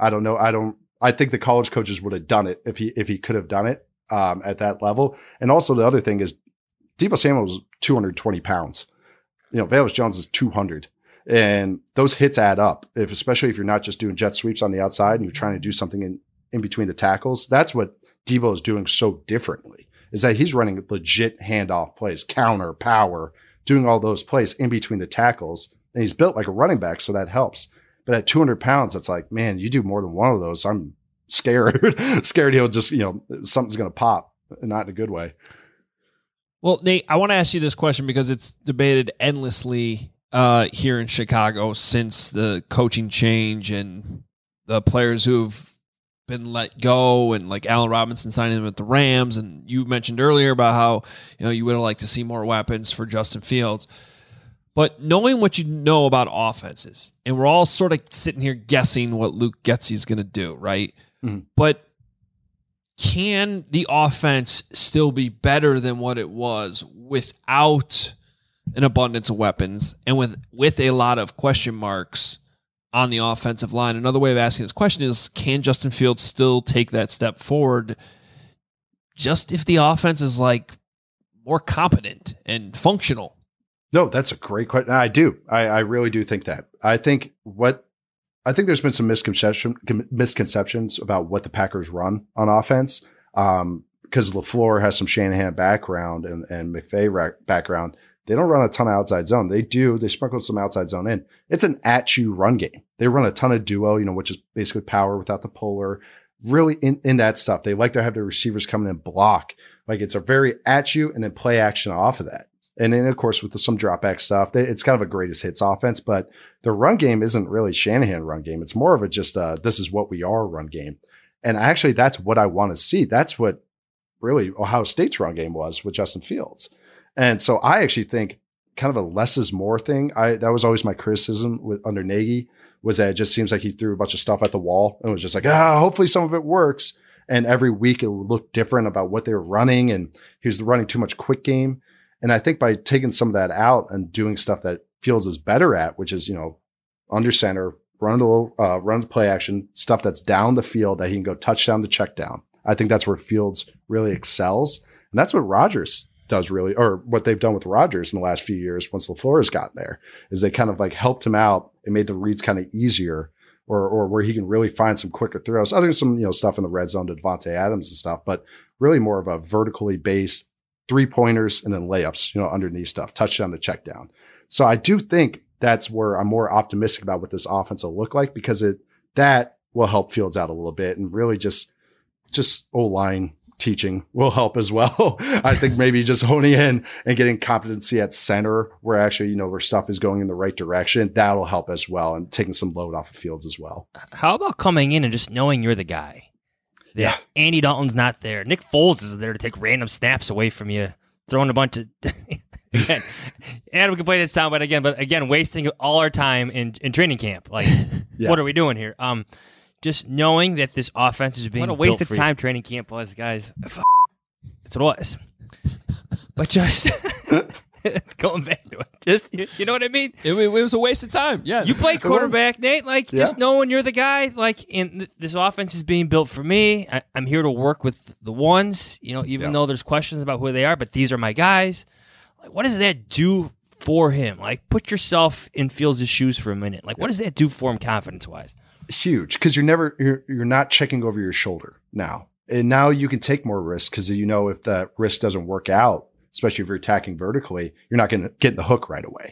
[SPEAKER 6] I think the college coaches would have done it if he could have done it at that level. And also the other thing is Deebo Samuel was 220 pounds. Velus Jones is 200. And those hits add up, especially if you're not just doing jet sweeps on the outside and you're trying to do something in between the tackles. That's what Deebo is doing so differently, is that he's running legit handoff plays, counter, power, doing all those plays in between the tackles. And he's built like a running back, so that helps. But at 200 pounds, it's like, man, you do more than one of those, I'm scared he'll just, something's going to pop, not in a good way.
[SPEAKER 8] Well, Nate, I want to ask you this question because it's debated endlessly here in Chicago since the coaching change and the players who've been let go, and like Allen Robinson signing him at the Rams. And you mentioned earlier about how, you would have liked to see more weapons for Justin Fields. But knowing what you know about offenses, and we're all sort of sitting here guessing what Luke Getsy is going to do, right? Mm-hmm. But can the offense still be better than what it was without an abundance of weapons and with a lot of question marks on the offensive line? Another way of asking this question is, can Justin Fields still take that step forward just if the offense is like more competent and functional?
[SPEAKER 6] No, that's a great question. I do. I really do think that. I think there's been some misconceptions about what the Packers run on offense, because LaFleur has some Shanahan background and McVay background. They don't run a ton of outside zone. They sprinkle some outside zone in. It's an at-you run game. They run a ton of duo, which is basically power without the puller. Really in that stuff. They like to have the receivers come in and block. Like it's a very at-you and then play action off of that. And then, of course, with some drop back stuff, it's kind of a greatest hits offense, but the run game isn't really Shanahan run game. It's more of a just this is what we are run game. And actually, that's what I want to see. That's what really Ohio State's run game was with Justin Fields. And so I actually think kind of a less is more thing. That was always my criticism under Nagy, was that it just seems like he threw a bunch of stuff at the wall and was just like, hopefully some of it works. And every week it would look different about what they were running. And he was running too much quick game. And I think by taking some of that out and doing stuff that Fields is better at, which is, under center, run the play action, stuff that's down the field that he can go touchdown to check down. I think that's where Fields really excels. And that's what Rodgers does really, or what they've done with Rodgers in the last few years once LaFleur has gotten there, is they kind of like helped him out and made the reads kind of easier, or where he can really find some quicker throws, other than some, stuff in the red zone to Devontae Adams and stuff, but really more of a vertically based 3-pointers and then layups, underneath stuff, touchdown to check down. So I do think that's where I'm more optimistic about what this offense will look like, because that will help Fields out a little bit and really just O-line teaching will help as well. I think maybe just honing in and getting competency at center where actually, where stuff is going in the right direction, that'll help as well. And taking some load off of fields as well.
[SPEAKER 9] How about coming in and just knowing you're the guy?
[SPEAKER 6] Yeah.
[SPEAKER 9] Andy Dalton's not there. Nick Foles is there to take random snaps away from you, throwing a bunch of again, and we can play that soundbite but again, wasting all our time in training camp. Like, what are we doing here? Just knowing that this offense is being
[SPEAKER 13] what a waste
[SPEAKER 9] built
[SPEAKER 13] of
[SPEAKER 9] for
[SPEAKER 13] time
[SPEAKER 9] you.
[SPEAKER 13] training camp was, guys.
[SPEAKER 9] That's what it was. But just going back to it, just you know what I mean?
[SPEAKER 8] It was a waste of time. Yeah,
[SPEAKER 9] you play quarterback, Nate. Like, just knowing you're the guy. Like, and this offense is being built for me. I'm here to work with the ones. Even though there's questions about who they are, but these are my guys. Like, what does that do for him? Like, put yourself in Fields' shoes for a minute. Like, what does that do for him confidence wise?
[SPEAKER 6] Huge, because you're not checking over your shoulder now, and now you can take more risks because if that risk doesn't work out, especially if you're attacking vertically, you're not going to get in the hook right away.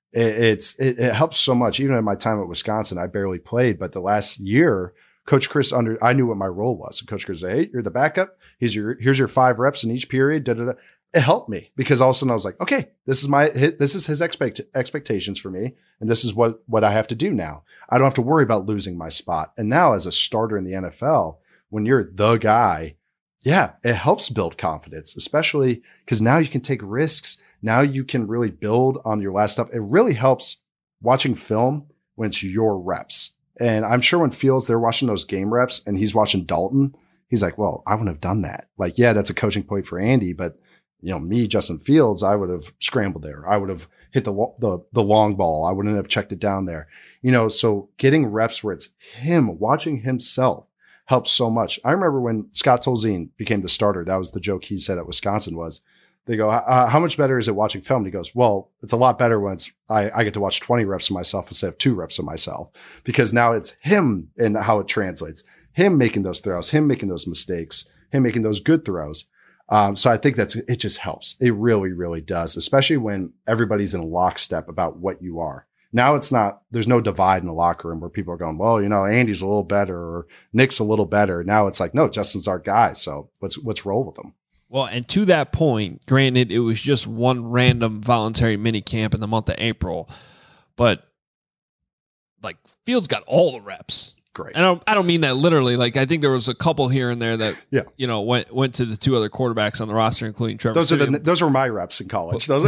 [SPEAKER 6] It helps so much. Even in my time at Wisconsin, I barely played, but the last year, Coach Chris I knew what my role was. And Coach Chris said, "Hey, you're the backup. Here's your 5 reps in each period." It helped me because all of a sudden I was like, okay, this is his expectations for me. And this is what I have to do now. I don't have to worry about losing my spot. And now as a starter in the NFL, when you're the guy, it helps build confidence, especially because now you can take risks. Now you can really build on your last stuff. It really helps watching film when it's your reps. And I'm sure when Fields, they're watching those game reps and he's watching Dalton, he's like, well, I wouldn't have done that. Like, that's a coaching point for Andy, but me, Justin Fields, I would have scrambled there. I would have hit the long ball. I wouldn't have checked it down there. So getting reps where it's him, watching himself helps so much. I remember when Scott Tolzien became the starter, that was the joke he said at Wisconsin was, they go, how much better is it watching film? And he goes, well, it's a lot better when I get to watch 20 reps of myself instead of 2 reps of myself, because now it's him and how it translates, him making those throws, him making those mistakes, him making those good throws. So I think it just helps. It really, really does, especially when everybody's in lockstep about what you are. Now there's no divide in the locker room where people are going, well, Andy's a little better or Nick's a little better. Now it's like, no, Justin's our guy. So let's roll with him.
[SPEAKER 8] Well, and to that point, granted, it was just one random voluntary mini camp in the month of April, but like Fields got all the reps.
[SPEAKER 6] Great.
[SPEAKER 8] And I don't mean that literally. Like, I think there was a couple here and there that went to the 2 other quarterbacks on the roster, including Trevor.
[SPEAKER 6] Those were my reps in college. Those are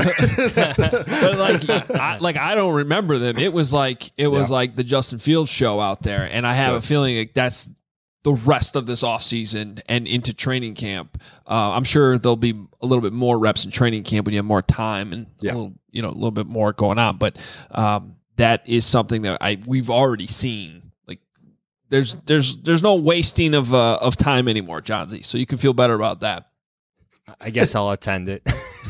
[SPEAKER 8] but I don't remember them. It was like the Justin Fields show out there, and I have a feeling like that's the rest of this offseason and into training camp. I'm sure there'll be a little bit more reps in training camp when you have more time and a little bit more going on. But that is something that we've already seen. There's no wasting of time anymore, John Z. So you can feel better about that.
[SPEAKER 9] I guess I'll attend it.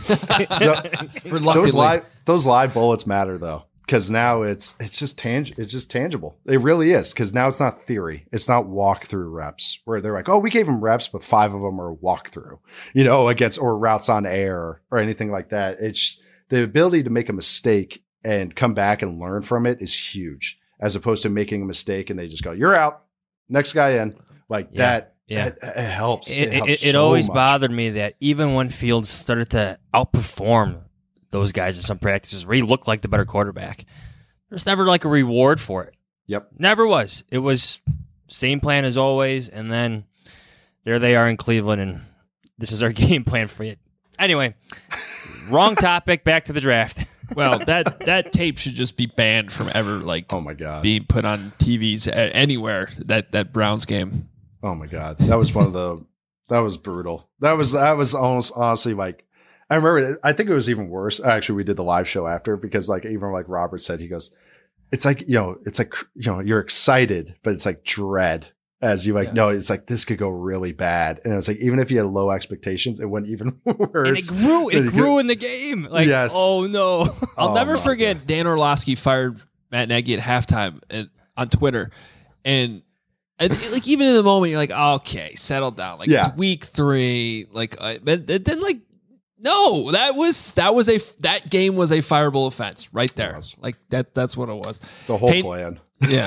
[SPEAKER 6] Those live bullets matter though, because now it's just tangible. It really is, because now it's not theory. It's not walkthrough reps where they're like, oh, we gave them reps, but 5 of them are walkthrough, against or routes on air or anything like that. It's the ability to make a mistake and come back and learn from it is huge, as opposed to making a mistake and they just go, you're out, next guy in, like that. Yeah, it helps.
[SPEAKER 9] It always bothered me that even when Fields started to outperform those guys in some practices where he looked like the better quarterback, there's never like a reward for it.
[SPEAKER 6] Yep.
[SPEAKER 9] Never was. It was same plan as always, and then there they are in Cleveland, and this is our game plan for you. Anyway, wrong topic, back to the draft.
[SPEAKER 8] Well, that tape should just be banned from ever,
[SPEAKER 6] oh my God,
[SPEAKER 8] being put on TVs anywhere, that Browns game.
[SPEAKER 6] Oh my God. That was that was brutal. That was almost honestly like, I remember, I think it was even worse. Actually, we did the live show after, because even like Robert said, he goes, it's like, you're excited, but it's like dread as you no, it's like, this could go really bad. And it's like, even if you had low expectations, it went even worse.
[SPEAKER 9] And it grew in the game. Like, yes. Oh no.
[SPEAKER 8] I'll never forget Dan Orlovsky fired Matt Nagy at halftime on Twitter. And like, even in the moment, you're like, okay, settle down. Like, it's week 3. Like, but then like, no, that game was a fireable offense right there. Like that's what it was.
[SPEAKER 6] The whole plan.
[SPEAKER 8] Yeah.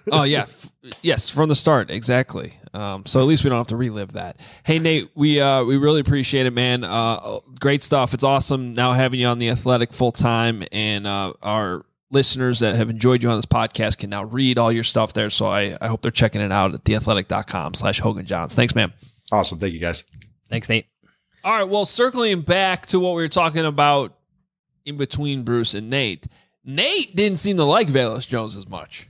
[SPEAKER 8] Oh, yeah. Yes, from the start. Exactly. So at least we don't have to relive that. Hey, Nate, we really appreciate it, man. Great stuff. It's awesome now having you on The Athletic full time, and our listeners that have enjoyed you on this podcast can now read all your stuff there. So I hope they're checking it out at theathletic.com/HoganJohns. Thanks, man.
[SPEAKER 6] Awesome. Thank you, guys.
[SPEAKER 9] Thanks, Nate.
[SPEAKER 8] All right. Well, circling back to what we were talking about in between Bruce and Nate, Nate didn't seem to like Velus Jones as much.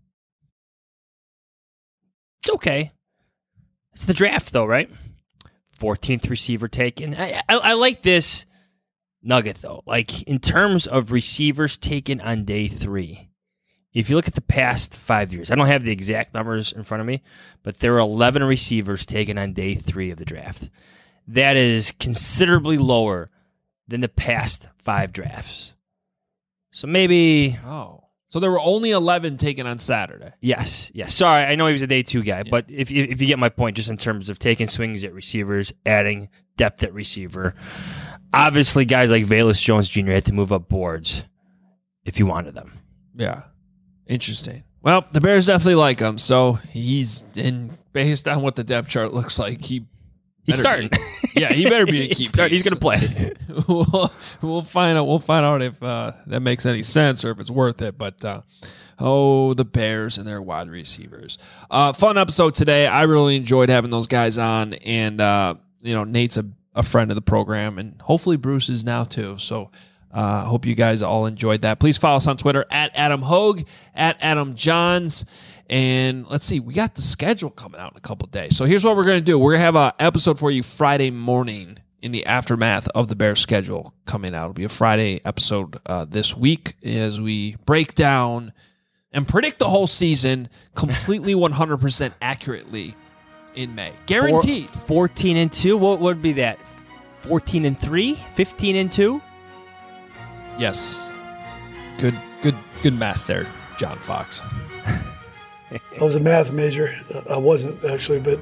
[SPEAKER 9] It's okay. It's the draft, though, right? 14th receiver taken. I like this nugget, though. Like, in terms of receivers taken on day 3, if you look at the past 5 years, I don't have the exact numbers in front of me, but there were 11 receivers taken on day 3 of the draft. That is considerably lower than the past 5 drafts. So maybe...
[SPEAKER 8] So there were only 11 taken on Saturday.
[SPEAKER 9] Yes. Sorry, I know he was a day 2 guy, but if you get my point, just in terms of taking swings at receivers, adding depth at receiver, obviously guys like Velus Jones Jr. had to move up boards if you wanted them.
[SPEAKER 8] Yeah. Interesting. Well, the Bears definitely like him, so based on what the depth chart looks like, he's
[SPEAKER 9] starting.
[SPEAKER 8] He better be a key piece.
[SPEAKER 9] He's going to play.
[SPEAKER 8] We'll find out. We'll find out if that makes any sense or if it's worth it. But the Bears and their wide receivers. Fun episode today. I really enjoyed having those guys on, and Nate's a friend of the program, and hopefully Bruce is now too. So hope you guys all enjoyed that. Please follow us on Twitter at Adam Hogue, at Adam Johns. And let's see, we got the schedule coming out in a couple of days. So here's what we're going to do. We're going to have an episode for you Friday morning in the aftermath of the Bears schedule coming out. It'll be a Friday episode this week as we break down and predict the whole season completely 100% accurately in May. Guaranteed.
[SPEAKER 9] 14-2? What would be that? 14-3? 15-2?
[SPEAKER 8] Yes. Good math there, John Fox.
[SPEAKER 13] I was a math major. I wasn't, actually, but...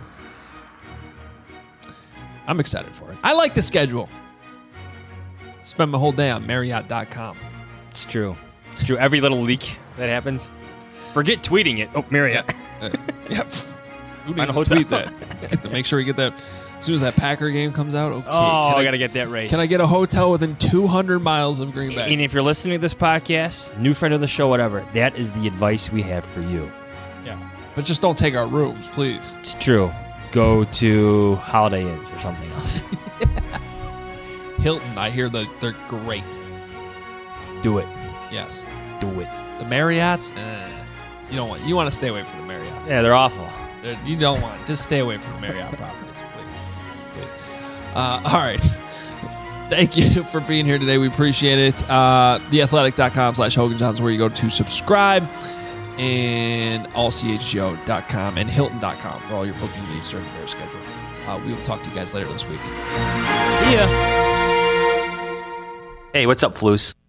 [SPEAKER 8] I'm excited for it. I like the schedule. Spend my whole day on Marriott.com.
[SPEAKER 9] It's true. Every little leak that happens, forget tweeting it. Oh, Marriott.
[SPEAKER 8] Who needs to tweet that? Make sure we get that as soon as that Packer game comes out. Okay.
[SPEAKER 9] I got to get that right.
[SPEAKER 8] Can I get a hotel within 200 miles of Green Bay?
[SPEAKER 9] And if you're listening to this podcast, new friend of the show, whatever, that is the advice we have for you.
[SPEAKER 8] Yeah. But just don't take our rooms, please.
[SPEAKER 9] It's true. Go to Holiday Inns or something else.
[SPEAKER 8] Hilton, I hear they're great.
[SPEAKER 9] Do it.
[SPEAKER 8] Yes.
[SPEAKER 9] Do it.
[SPEAKER 8] The Marriotts, you want to stay away from the Marriotts.
[SPEAKER 9] Yeah, they're awful.
[SPEAKER 8] You don't want. Just stay away from the Marriott properties, please. All right. Thank you for being here today. We appreciate it. Theathletic.com/HoganJohns where you go to subscribe, and allchgo.com and Hilton.com for all your booking needs during the Bears schedule. We will talk to you guys later this week.
[SPEAKER 9] See ya.
[SPEAKER 14] Hey, what's up, Floos?